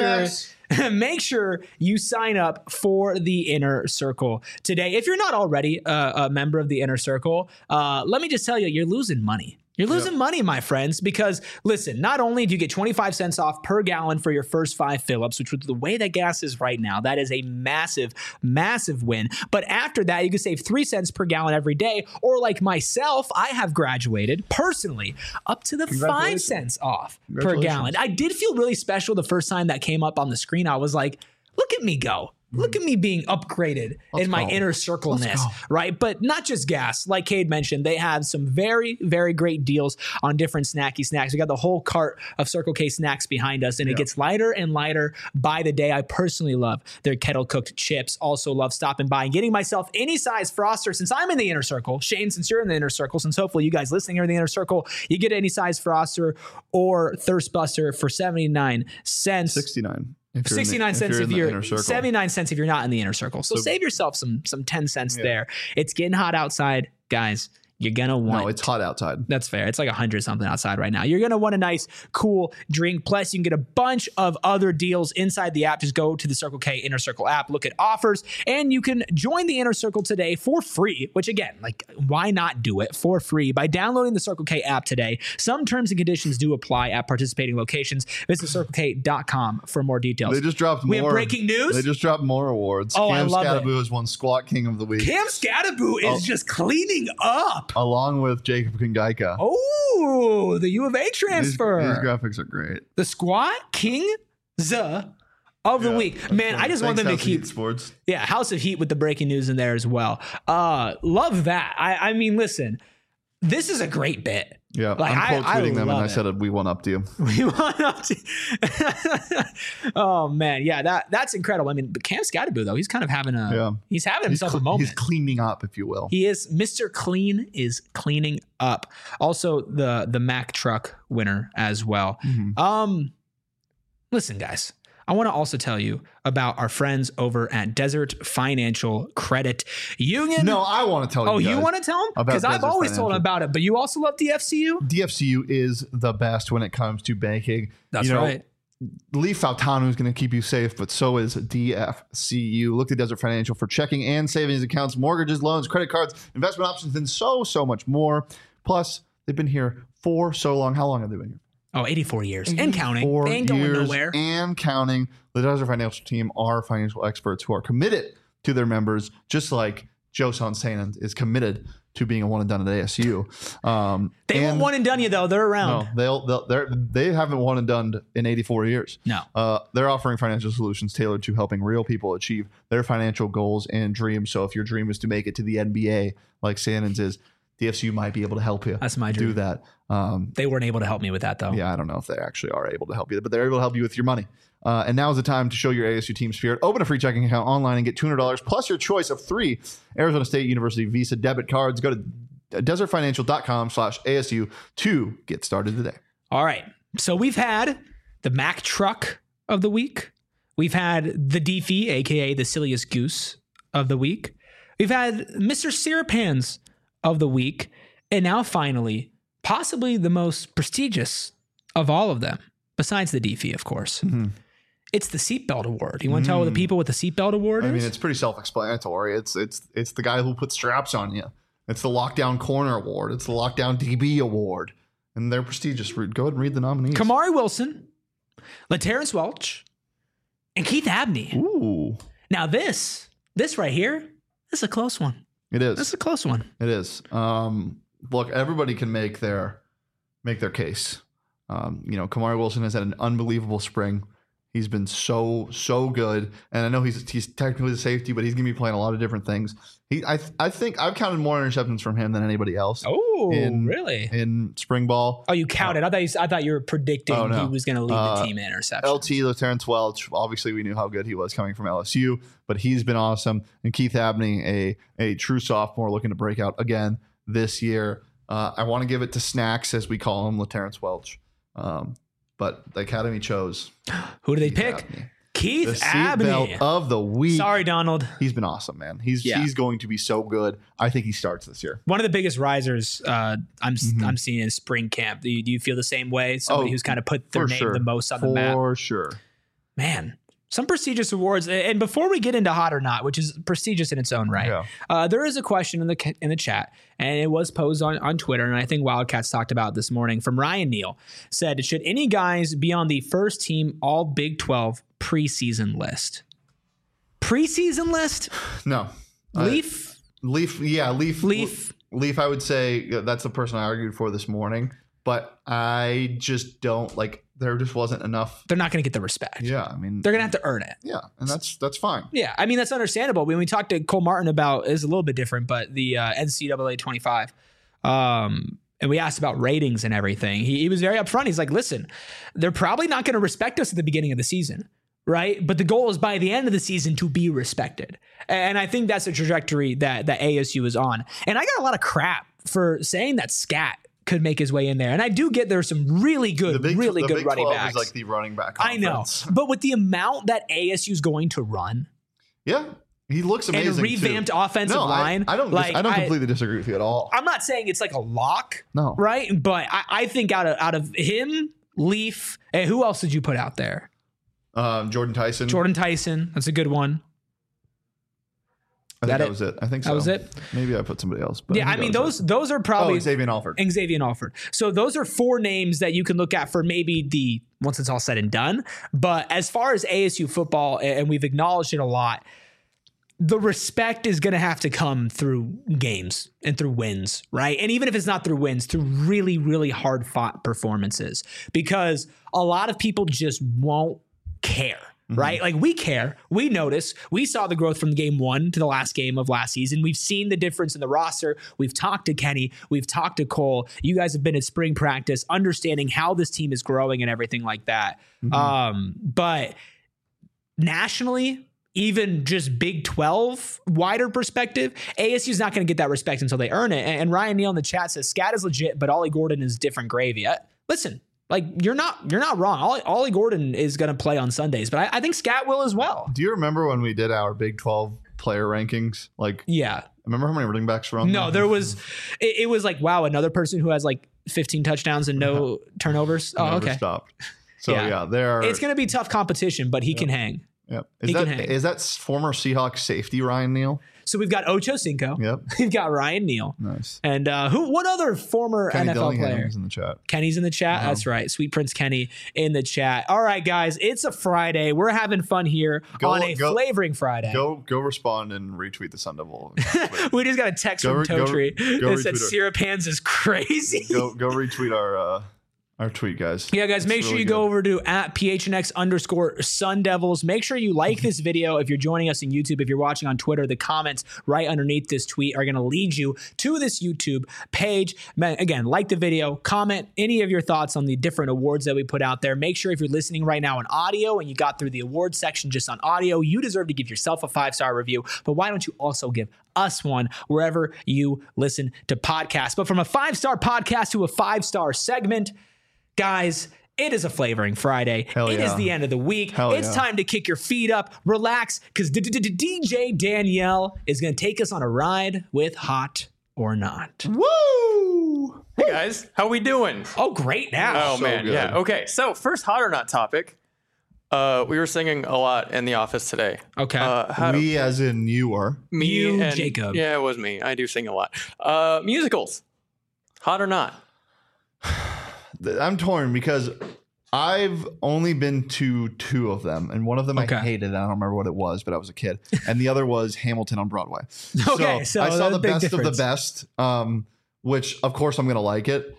Speaker 1: make sure you sign up for the Inner Circle today. If you're not already a member of the Inner Circle, let me just tell you, you're losing money. You're losing money, my friends, because listen, not only do you get 25 cents off per gallon for your first 5 fill-ups, which with the way that gas is right now, that is a massive, massive win. But after that, you can save 3 cents per gallon every day. Or like myself, I have graduated personally up to the 5 cents off per gallon. I did feel really special the first time that came up on the screen. I was like, look at me go. Look at me being upgraded in my inner circle-ness, right? But not just gas. Like Cade mentioned, they have some very, very great deals on different snacky snacks. We got the whole cart of Circle K snacks behind us, and it gets lighter and lighter by the day. I personally love their kettle-cooked chips. Also love stopping by and getting myself any size Froster since I'm in the inner circle. Shane, since you're in the inner circle, since hopefully you guys listening are in the inner circle, you get any size Froster or Thirst Buster for 79 cents.
Speaker 2: 69.
Speaker 1: 69 cents if you're 79 cents if you're not in the inner circle. So save yourself some 10 cents there. It's getting hot outside, guys. You're going to want...
Speaker 2: No, it's hot outside.
Speaker 1: That's fair. It's like 100 something outside right now. You're going to want a nice, cool drink. Plus, you can get a bunch of other deals inside the app. Just go to the Circle K Inner Circle app, look at offers, and you can join the Inner Circle today for free, which again, like, why not do it for free by downloading the Circle K app today? Some terms and conditions do apply at participating locations. Visit CircleK.com for more details.
Speaker 2: They just dropped more.
Speaker 1: We have breaking news.
Speaker 2: They just dropped more awards.
Speaker 1: Oh, Cam
Speaker 2: Skattebo has won Squat King of the Week.
Speaker 1: Cam Skattebo is just cleaning up.
Speaker 2: Along with Jacob Kingaika.
Speaker 1: Oh, the U of A transfer.
Speaker 2: These graphics are great.
Speaker 1: The Squat King of the week. Man, I just want them to keep
Speaker 2: sports.
Speaker 1: Yeah, House of Heat with the breaking news in there as well. Love that. I mean, listen, this is a great bit.
Speaker 2: Yeah, like, I'm quote tweeting them, and I said we went up to you.
Speaker 1: We went up to you. Oh man, yeah, that's incredible. I mean, but Cam Skattebo though, he's kind of having he's having himself a moment.
Speaker 2: He's cleaning up, if you will.
Speaker 1: He is. Mr. Clean is cleaning up. Also, the Mack truck winner as well. Mm-hmm. Listen, guys. I want to also tell you about our friends over at Desert Financial Credit Union.
Speaker 2: No, I want to tell you.
Speaker 1: Oh, you want to tell them? Because I've always told them about it, but you also love DFCU?
Speaker 2: DFCU is the best when it comes to banking.
Speaker 1: That's right.
Speaker 2: Lee Faltano is going to keep you safe, but so is DFCU. Look to Desert Financial for checking and savings accounts, mortgages, loans, credit cards, investment options, and so much more. Plus, they've been here for so long. How long have they been here?
Speaker 1: Oh, 84 years and counting. They ain't going nowhere.
Speaker 2: And counting. The Desert Financial team are financial experts who are committed to their members, just like Joe Sanan is committed to being a one and done at ASU.
Speaker 1: They won't one and done you though. They're around.
Speaker 2: No, they haven't one and done in 84 years.
Speaker 1: No.
Speaker 2: They're offering financial solutions tailored to helping real people achieve their financial goals and dreams. So if your dream is to make it to the NBA, like Sanon's is, DFCU might be able to help you.
Speaker 1: That's my dream.
Speaker 2: Do that.
Speaker 1: They weren't able to help me with that, though.
Speaker 2: Yeah, I don't know if they actually are able to help you, but they're able to help you with your money. And now is the time to show your ASU team spirit. Open a free checking account online and get $200 plus your choice of 3 Arizona State University Visa debit cards. Go to desertfinancial.com/ASU to get started today.
Speaker 1: All right. So we've had the Mack truck of the week. We've had the Deefy, a.k.a. the silliest goose of the week. We've had Mr. Syrup Hands of the week. And now finally, possibly the most prestigious of all of them, besides the Deefy, of course. Mm-hmm. It's the Seatbelt Award. You want to tell the people what the Seatbelt Award is?
Speaker 2: I mean, it's pretty self-explanatory. It's the guy who puts straps on you. It's the Lockdown Corner Award. It's the Lockdown DB Award. And they're prestigious. Go ahead and read the nominees.
Speaker 1: Kamari Wilson, LaTerrence Welch, and Keith Abney.
Speaker 2: Ooh.
Speaker 1: Now this right here, this is a close one.
Speaker 2: It is.
Speaker 1: This is a close one.
Speaker 2: It is. Look, everybody can make their case. Kamari Wilson has had an unbelievable spring. He's been so good, and I know he's technically the safety, but he's going to be playing a lot of different things. I think I've counted more interceptions from him than anybody else.
Speaker 1: Oh, really?
Speaker 2: In spring ball?
Speaker 1: Oh, you counted? I thought you were predicting he was going to lead the team in interceptions.
Speaker 2: LT, LaTerrence Welch. Obviously, we knew how good he was coming from LSU, but he's been awesome. And Keith Abney, a true sophomore, looking to break out again this year. I want to give it to Snacks, as we call him, LaTerrence Welch. But the Academy chose.
Speaker 1: Who do they pick?
Speaker 2: Abney.
Speaker 1: Keith
Speaker 2: the
Speaker 1: Abney.
Speaker 2: Seatbelt of the week.
Speaker 1: Sorry, Donald.
Speaker 2: He's been awesome, man. He's going to be so good. I think he starts this year.
Speaker 1: One of the biggest risers I'm seeing in spring camp. Do you feel the same way? Somebody who's kind of put their name the most on the map.
Speaker 2: For sure.
Speaker 1: Man, Some prestigious awards. And before we get into hot or not, which is prestigious in its own right, there is a question in the chat, and it was posed on Twitter, and I think Wildcats talked about it this morning, from Ryan Neal. Said, should any guys be on the first team all Big 12 preseason list? Preseason list?
Speaker 2: No.
Speaker 1: Leaf?
Speaker 2: Leaf, I would say that's the person I argued for this morning, but I just don't like. There just wasn't enough.
Speaker 1: They're not going to get the respect.
Speaker 2: Yeah, I mean,
Speaker 1: they're going to have to earn it.
Speaker 2: Yeah, and that's fine.
Speaker 1: Yeah, I mean, that's understandable. When we talked to Cole Martin about, it's a little bit different, but the NCAA 25, and we asked about ratings and everything. He was very upfront. He's like, listen, they're probably not going to respect us at the beginning of the season, right? But the goal is by the end of the season to be respected. And I think that's the trajectory that ASU is on. And I got a lot of crap for saying that Scat could make his way in there. And I do get there's some really good
Speaker 2: Big
Speaker 1: running
Speaker 2: 12
Speaker 1: backs.
Speaker 2: Is like the running back
Speaker 1: I
Speaker 2: conference.
Speaker 1: know. But with the amount that ASU is going to run.
Speaker 2: Yeah. He looks amazing.
Speaker 1: And a revamped offensive line.
Speaker 2: I don't completely disagree with you at all.
Speaker 1: I'm not saying it's like a lock.
Speaker 2: No.
Speaker 1: Right? But I think out of him, Leaf, and who else did you put out there?
Speaker 2: Jordan Tyson.
Speaker 1: That's a good one.
Speaker 2: I think that was it. I think so.
Speaker 1: That was it.
Speaker 2: Maybe I put somebody else. But
Speaker 1: yeah, I mean, those are probably
Speaker 2: Xavier Alford.
Speaker 1: So those are 4 names that you can look at for maybe once it's all said and done. But as far as ASU football, and we've acknowledged it a lot, the respect is going to have to come through games and through wins, right? And even if it's not through wins, through really, really hard fought performances, because a lot of people just won't care. Right? Like, we care. We notice. We saw the growth from game 1 to the last game of last season. We've seen the difference in the roster. We've talked to Kenny. We've talked to Cole. You guys have been at spring practice, understanding how this team is growing and everything like that. But nationally, even just Big 12 wider perspective, ASU is not going to get that respect until they earn it. And Ryan Neal in the chat says, Scat is legit, but Ollie Gordon is different gravy. Listen. Like, you're not wrong. Ollie Gordon is going to play on Sundays, but I think Scat will as well.
Speaker 2: Do you remember when we did our Big 12 player rankings? Like,
Speaker 1: yeah.
Speaker 2: Remember how many running backs were on
Speaker 1: No, there was, it was like, wow, another person who has like 15 touchdowns and no turnovers. Oh, okay.
Speaker 2: Stopped. So yeah,
Speaker 1: it's going to be tough competition, but he can hang.
Speaker 2: Yep. Is that former Seahawks safety Ryan Neal?
Speaker 1: So we've got Ocho Cinco.
Speaker 2: Yep.
Speaker 1: We've got Ryan Neal.
Speaker 2: Nice.
Speaker 1: And what other former
Speaker 2: Kenny
Speaker 1: NFL
Speaker 2: Dillingham
Speaker 1: player?
Speaker 2: Is in the chat.
Speaker 1: Kenny's in the chat. That's right. Sweet Prince Kenny in the chat. All right, guys. It's a Friday. We're having fun here on a flavoring Friday.
Speaker 2: Go respond and retweet the Sun Devil.
Speaker 1: We just got a text from Totri that said Syrup Hands is crazy.
Speaker 2: Go retweet our tweet, guys.
Speaker 1: Yeah, guys, make sure you go over to @PHNX_Sun Devils. Make sure you like this video if you're joining us on YouTube. If you're watching on Twitter, the comments right underneath this tweet are going to lead you to this YouTube page. Again, like the video, comment any of your thoughts on the different awards that we put out there. Make sure if you're listening right now on audio and you got through the awards section just on audio, you deserve to give yourself a 5-star review. But why don't you also give us one wherever you listen to podcasts? But from a 5-star podcast to a 5-star segment, guys, it is a Flavoring Friday. It is the end of the week. It's time to kick your feet up, relax, because DJ Danielle is going to take us on a ride with Hot or Not.
Speaker 3: Woo! Hey, guys. How we doing?
Speaker 1: Oh, great now.
Speaker 3: Oh, man. Good. Yeah. Okay. So, first Hot or Not topic. We were singing a lot in the office today.
Speaker 1: Okay.
Speaker 2: We as in you were.
Speaker 3: Me
Speaker 1: you
Speaker 3: and
Speaker 1: Jacob.
Speaker 3: Yeah, it was me. I do sing a lot. Musicals. Hot or not?
Speaker 2: I'm torn because I've only been to 2 of them, and one of them I hated. I don't remember what it was, but I was a kid, and the other was Hamilton on Broadway.
Speaker 1: Okay, so
Speaker 2: I saw the best
Speaker 1: difference.
Speaker 2: of the best, which of course I'm gonna like it.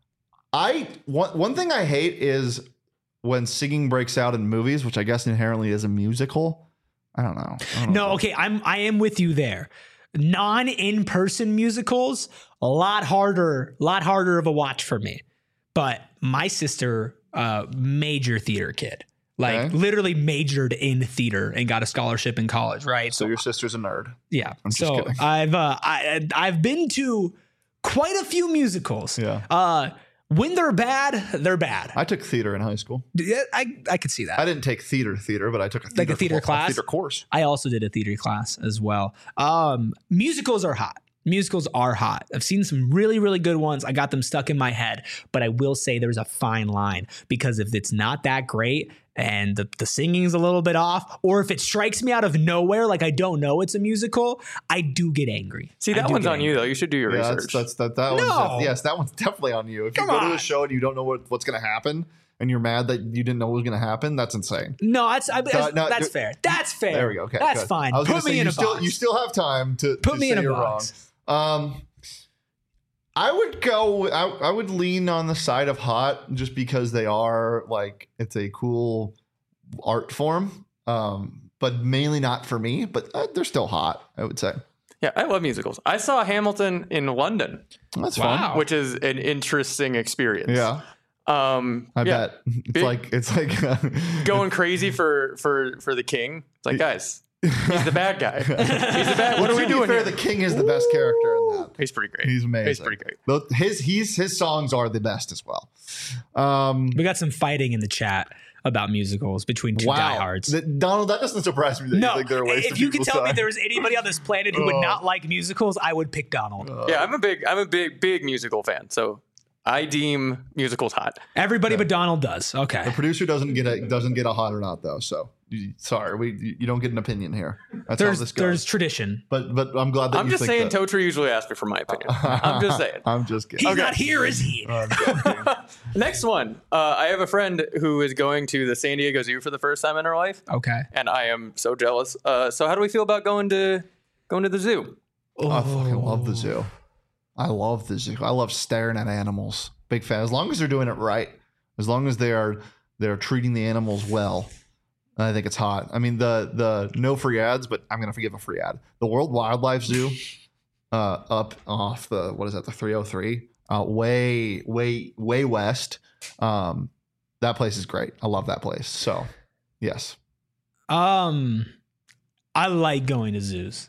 Speaker 2: One thing I hate is when singing breaks out in movies, which I guess inherently is a musical. I don't know.
Speaker 1: I am with you there. Non-in-person musicals, a lot harder of a watch for me. But my sister, major theater kid, literally majored in theater and got a scholarship in college. Right.
Speaker 2: So your sister's a nerd.
Speaker 1: Yeah.
Speaker 2: I'm just kidding.
Speaker 1: I've been to quite a few musicals.
Speaker 2: Yeah.
Speaker 1: When they're bad, they're bad.
Speaker 2: I took theater in high school.
Speaker 1: Yeah, I could see that.
Speaker 2: I didn't take theater, but I took a theater
Speaker 1: class,
Speaker 2: theater course.
Speaker 1: I also did a theater class as well. Musicals are hot. Musicals are hot. I've seen some really, really good ones. I got them stuck in my head, but I will say there's a fine line because if it's not that great, and the singing's a little bit off, or if it strikes me out of nowhere, like I don't know it's a musical, I do get angry.
Speaker 3: See, that one's on you though. You should do your research.
Speaker 2: Yes, that one's definitely on you. If you go to a show and you don't know what's going to happen, and you're mad that you didn't know what was going to happen, that's insane.
Speaker 1: No, that's fair. That's fair.
Speaker 2: There we go. Okay,
Speaker 1: that's
Speaker 2: good.
Speaker 1: fine. Put me in a box.
Speaker 2: You still have time to
Speaker 1: put me in a box.
Speaker 2: I would lean on the side of hot just because they are like, it's a cool art form, but mainly not for me. But they're still hot, I would say.
Speaker 3: Yeah, I love musicals. I saw Hamilton in London.
Speaker 2: That's fun,
Speaker 3: which is an interesting experience.
Speaker 2: Yeah. I bet it's like
Speaker 3: going crazy for the king. It's like, guys, he's the bad guy. He's the bad. What are we doing here?
Speaker 2: The king is the best character in that.
Speaker 3: He's pretty great.
Speaker 2: He's amazing.
Speaker 3: He's pretty great.
Speaker 2: His songs are the best as well.
Speaker 1: We got some fighting in the chat about musicals between two diehards.
Speaker 2: Donald, that doesn't surprise me that you think they're a waste of
Speaker 1: if you could tell
Speaker 2: time.
Speaker 1: me there was anybody on this planet who would not like musicals, I would pick Donald.
Speaker 3: Yeah, I'm a big musical fan. So I deem musicals hot.
Speaker 1: Everybody but Donald does. Okay.
Speaker 2: The producer doesn't get a hot or not though. So sorry, you don't get an opinion here. That's how this goes.
Speaker 1: There's tradition.
Speaker 2: But I'm glad that
Speaker 3: I'm just saying Totri usually asks me for my opinion. I'm just saying.
Speaker 2: I'm just kidding.
Speaker 1: He's not here, is he?
Speaker 3: Next one. I have a friend who is going to the San Diego Zoo for the first time in her life.
Speaker 1: Okay.
Speaker 3: And I am so jealous. So how do we feel about going to the zoo?
Speaker 2: Oh, I fucking love the zoo. I love the zoo. I love staring at animals. Big fan. As long as they're doing it right, as long as they're treating the animals well, I think it's hot. I mean, the no free ads, but I'm gonna forgive a free ad. The World Wildlife Zoo, up off the 303, way west. That place is great. I love that place. So, yes.
Speaker 1: I like going to zoos.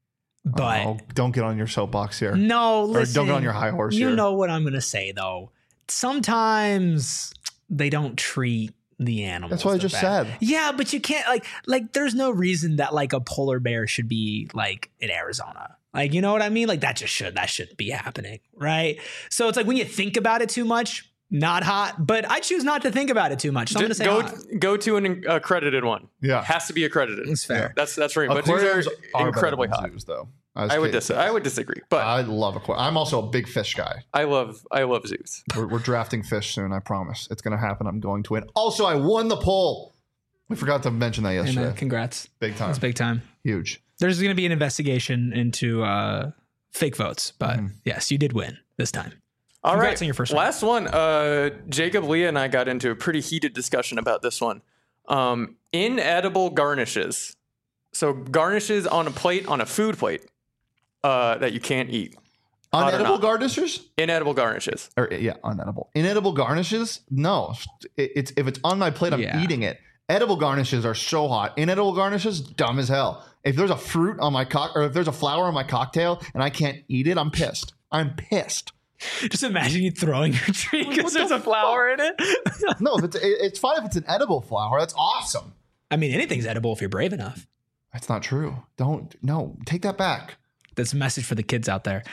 Speaker 1: But
Speaker 2: don't get on your soapbox here.
Speaker 1: No, listen.
Speaker 2: Or don't get on your high horse here.
Speaker 1: You know what I'm going to say, though. Sometimes they don't treat the animals.
Speaker 2: That's what I just said.
Speaker 1: Yeah, but you can't like. There's no reason that like a polar bear should be like in Arizona. Like, you know what I mean? Like that shouldn't be happening, right? So it's like when you think about it too much. Not hot, but I choose not to think about it too much. So I'm going to say
Speaker 3: go to an accredited one.
Speaker 2: Yeah,
Speaker 3: has to be accredited.
Speaker 1: That's fair.
Speaker 3: That's right. But these are incredibly hot.
Speaker 2: Zoos, though.
Speaker 3: I would disagree. But
Speaker 2: I love aquariums. I'm also a big fish guy.
Speaker 3: I love zoos.
Speaker 2: We're drafting fish soon. I promise it's going to happen. I'm going to win. Also, I won the poll. We forgot to mention that yesterday.
Speaker 1: Hey man, congrats.
Speaker 2: Big time.
Speaker 1: It's big time.
Speaker 2: Huge.
Speaker 1: There's going to be an investigation into fake votes, but yes, you did win this time.
Speaker 3: All
Speaker 1: Congrats
Speaker 3: right,
Speaker 1: on your first
Speaker 3: last one. Jacob, Leah, and I got into a pretty heated discussion about this one. Inedible garnishes. So garnishes on a plate, on a food plate, that you can't eat.
Speaker 2: Unedible garnishes?
Speaker 3: Inedible garnishes.
Speaker 2: Unedible. Inedible garnishes? No. If it's on my plate, I'm eating it. Edible garnishes are so hot. Inedible garnishes, dumb as hell. If there's a fruit on my or if there's a flower on my cocktail and I can't eat it, I'm pissed. I'm pissed.
Speaker 1: Just imagine you throwing your drink because there's a flower in it.
Speaker 2: No, it's fine if it's an edible flower. That's awesome.
Speaker 1: I mean, anything's edible if you're brave enough.
Speaker 2: That's not true. Take that back.
Speaker 1: That's a message for the kids out there.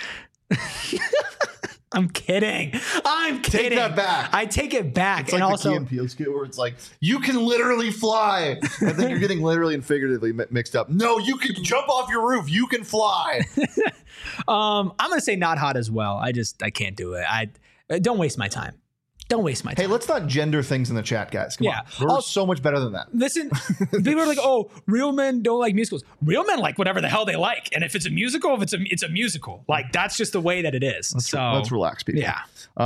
Speaker 1: I'm kidding.
Speaker 2: Take that back.
Speaker 1: I take it back.
Speaker 2: It's and like also, the Key and Peele skit where it's like, you can literally fly. And then you're getting literally and figuratively mixed up. No, you can jump off your roof. You can fly.
Speaker 1: I'm going to say not hot as well. I can't do it. Don't waste my time. Don't waste my time.
Speaker 2: Hey, let's not gender things in the chat, guys. Come on. We're so much better than that.
Speaker 1: Listen, people are like, oh, real men don't like musicals. Real men like whatever the hell they like. And if it's a musical, it's a musical. Like, that's just the way that it is.
Speaker 2: Let's relax, people.
Speaker 1: Yeah.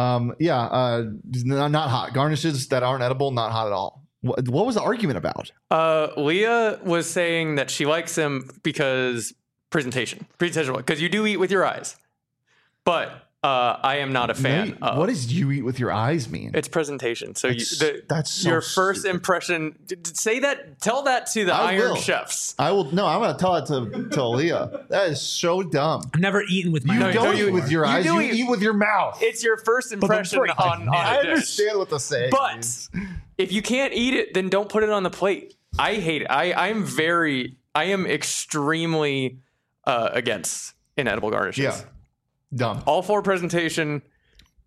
Speaker 2: Not hot. Garnishes that aren't edible, not hot at all. What was the argument about?
Speaker 3: Leah was saying that she likes them because presentation, because you do eat with your eyes. But I am not a fan.
Speaker 2: What does you eat with your eyes mean?
Speaker 3: It's presentation. So
Speaker 2: that's so
Speaker 3: your first impression. Say that. Tell that to the Iron Chefs.
Speaker 2: I will. No, I'm going to tell it to Leah. That is so dumb.
Speaker 1: I've never eaten with my eyes.
Speaker 2: You don't eat with your eyes. You eat with your mouth.
Speaker 3: It's your first impression on
Speaker 2: I
Speaker 3: a dish.
Speaker 2: understand what the saying
Speaker 3: means. If you can't eat it, then don't put it on the plate. I hate it. I am extremely against inedible garnishes.
Speaker 2: Yeah. Dumb.
Speaker 3: All for presentation.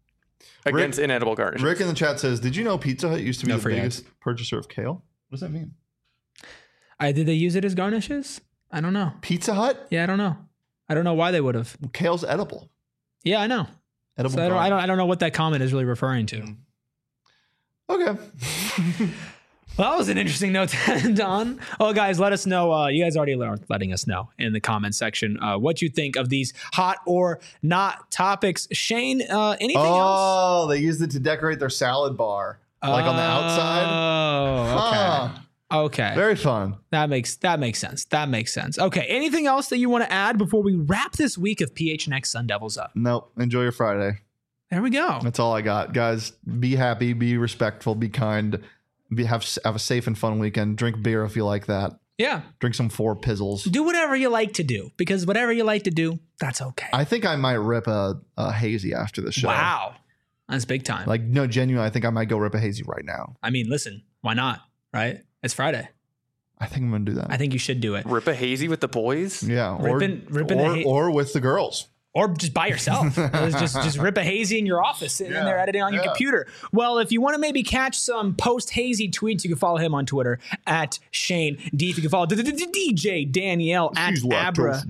Speaker 3: against inedible garnishes.
Speaker 2: Rick in the chat says, "Did you know Pizza Hut used to be
Speaker 1: No
Speaker 2: the
Speaker 1: free
Speaker 2: biggest purchaser of kale? What does that mean?
Speaker 1: Did they use it as garnishes? I don't know.
Speaker 2: Pizza Hut?
Speaker 1: Yeah, I don't know. I don't know why they would have.
Speaker 2: Kale's edible.
Speaker 1: Yeah, I know.
Speaker 2: Edible.
Speaker 1: So I don't know what that comment is really referring to.
Speaker 2: Okay.
Speaker 1: Well, that was an interesting note to end on. Oh, guys, let us know. You guys already are letting us know in the comment section what you think of these hot or not topics. Shane, anything else?
Speaker 2: Oh, they used it to decorate their salad bar, like on the outside.
Speaker 1: Oh, okay. Okay.
Speaker 2: Very fun.
Speaker 1: That makes sense. That makes sense. Okay. Anything else that you want to add before we wrap this week of PHNX Sun Devils up?
Speaker 2: Nope. Enjoy your Friday.
Speaker 1: There we go.
Speaker 2: That's all I got. Guys, be happy, be respectful, be kind, have a safe and fun weekend. Drink beer if you like that.
Speaker 1: Yeah.
Speaker 2: Drink some 4 Pizzles.
Speaker 1: Do whatever you like to do, because whatever you like to do, that's okay.
Speaker 2: I think I might rip a hazy after the show.
Speaker 1: Wow. That's big time.
Speaker 2: Like, no, genuinely, I think I might go rip a hazy right now.
Speaker 1: I mean, listen, why not? Right? It's Friday.
Speaker 2: I think I'm going to do that.
Speaker 1: I think you should do it.
Speaker 3: Rip a hazy with the boys?
Speaker 2: Yeah.
Speaker 1: Or
Speaker 2: with the girls.
Speaker 1: Or just by yourself. just rip a hazy in your office, sitting in there editing on your computer. Well, if you want to maybe catch some post-hazy tweets, you can follow him on Twitter at Shane D. If you can follow DJ Danielle at Abra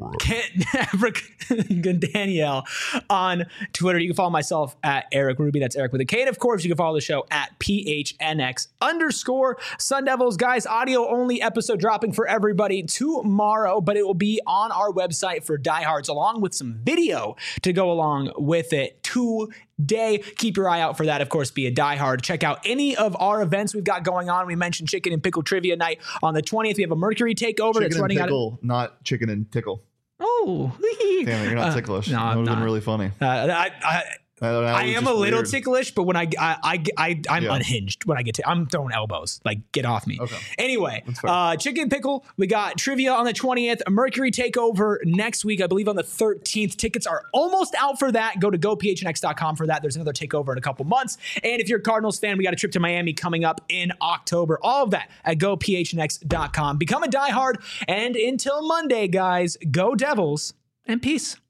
Speaker 1: Danielle on Twitter. You can follow myself at Eric Ruby. That's Eric with a K. And of course, you can follow the show at PHNX _ Sun Devils. Guys, audio only episode dropping for everybody tomorrow, but it will be on our website for diehards, along with some video to go along with it today. Keep your eye out for that. Of course, be a diehard. Check out any of our events we've got going on. We mentioned Chicken and Pickle Trivia Night on the 20th. We have a Mercury Takeover that's running out.
Speaker 2: Not chicken and tickle.
Speaker 1: Oh,
Speaker 2: damn it! You're not ticklish.
Speaker 1: No,
Speaker 2: that would have been really funny.
Speaker 1: I am a little ticklish, but when I'm unhinged when I get to, I'm throwing elbows. Like, get off me.
Speaker 2: Okay.
Speaker 1: Anyway, Chicken Pickle, we got trivia on the 20th, a Mercury Takeover next week, I believe on the 13th. Tickets are almost out for that. Go to gophnx.com for that. There's another takeover in a couple months. And if you're a Cardinals fan, we got a trip to Miami coming up in October. All of that at gophnx.com. Become a diehard. And until Monday, guys, go Devils and peace.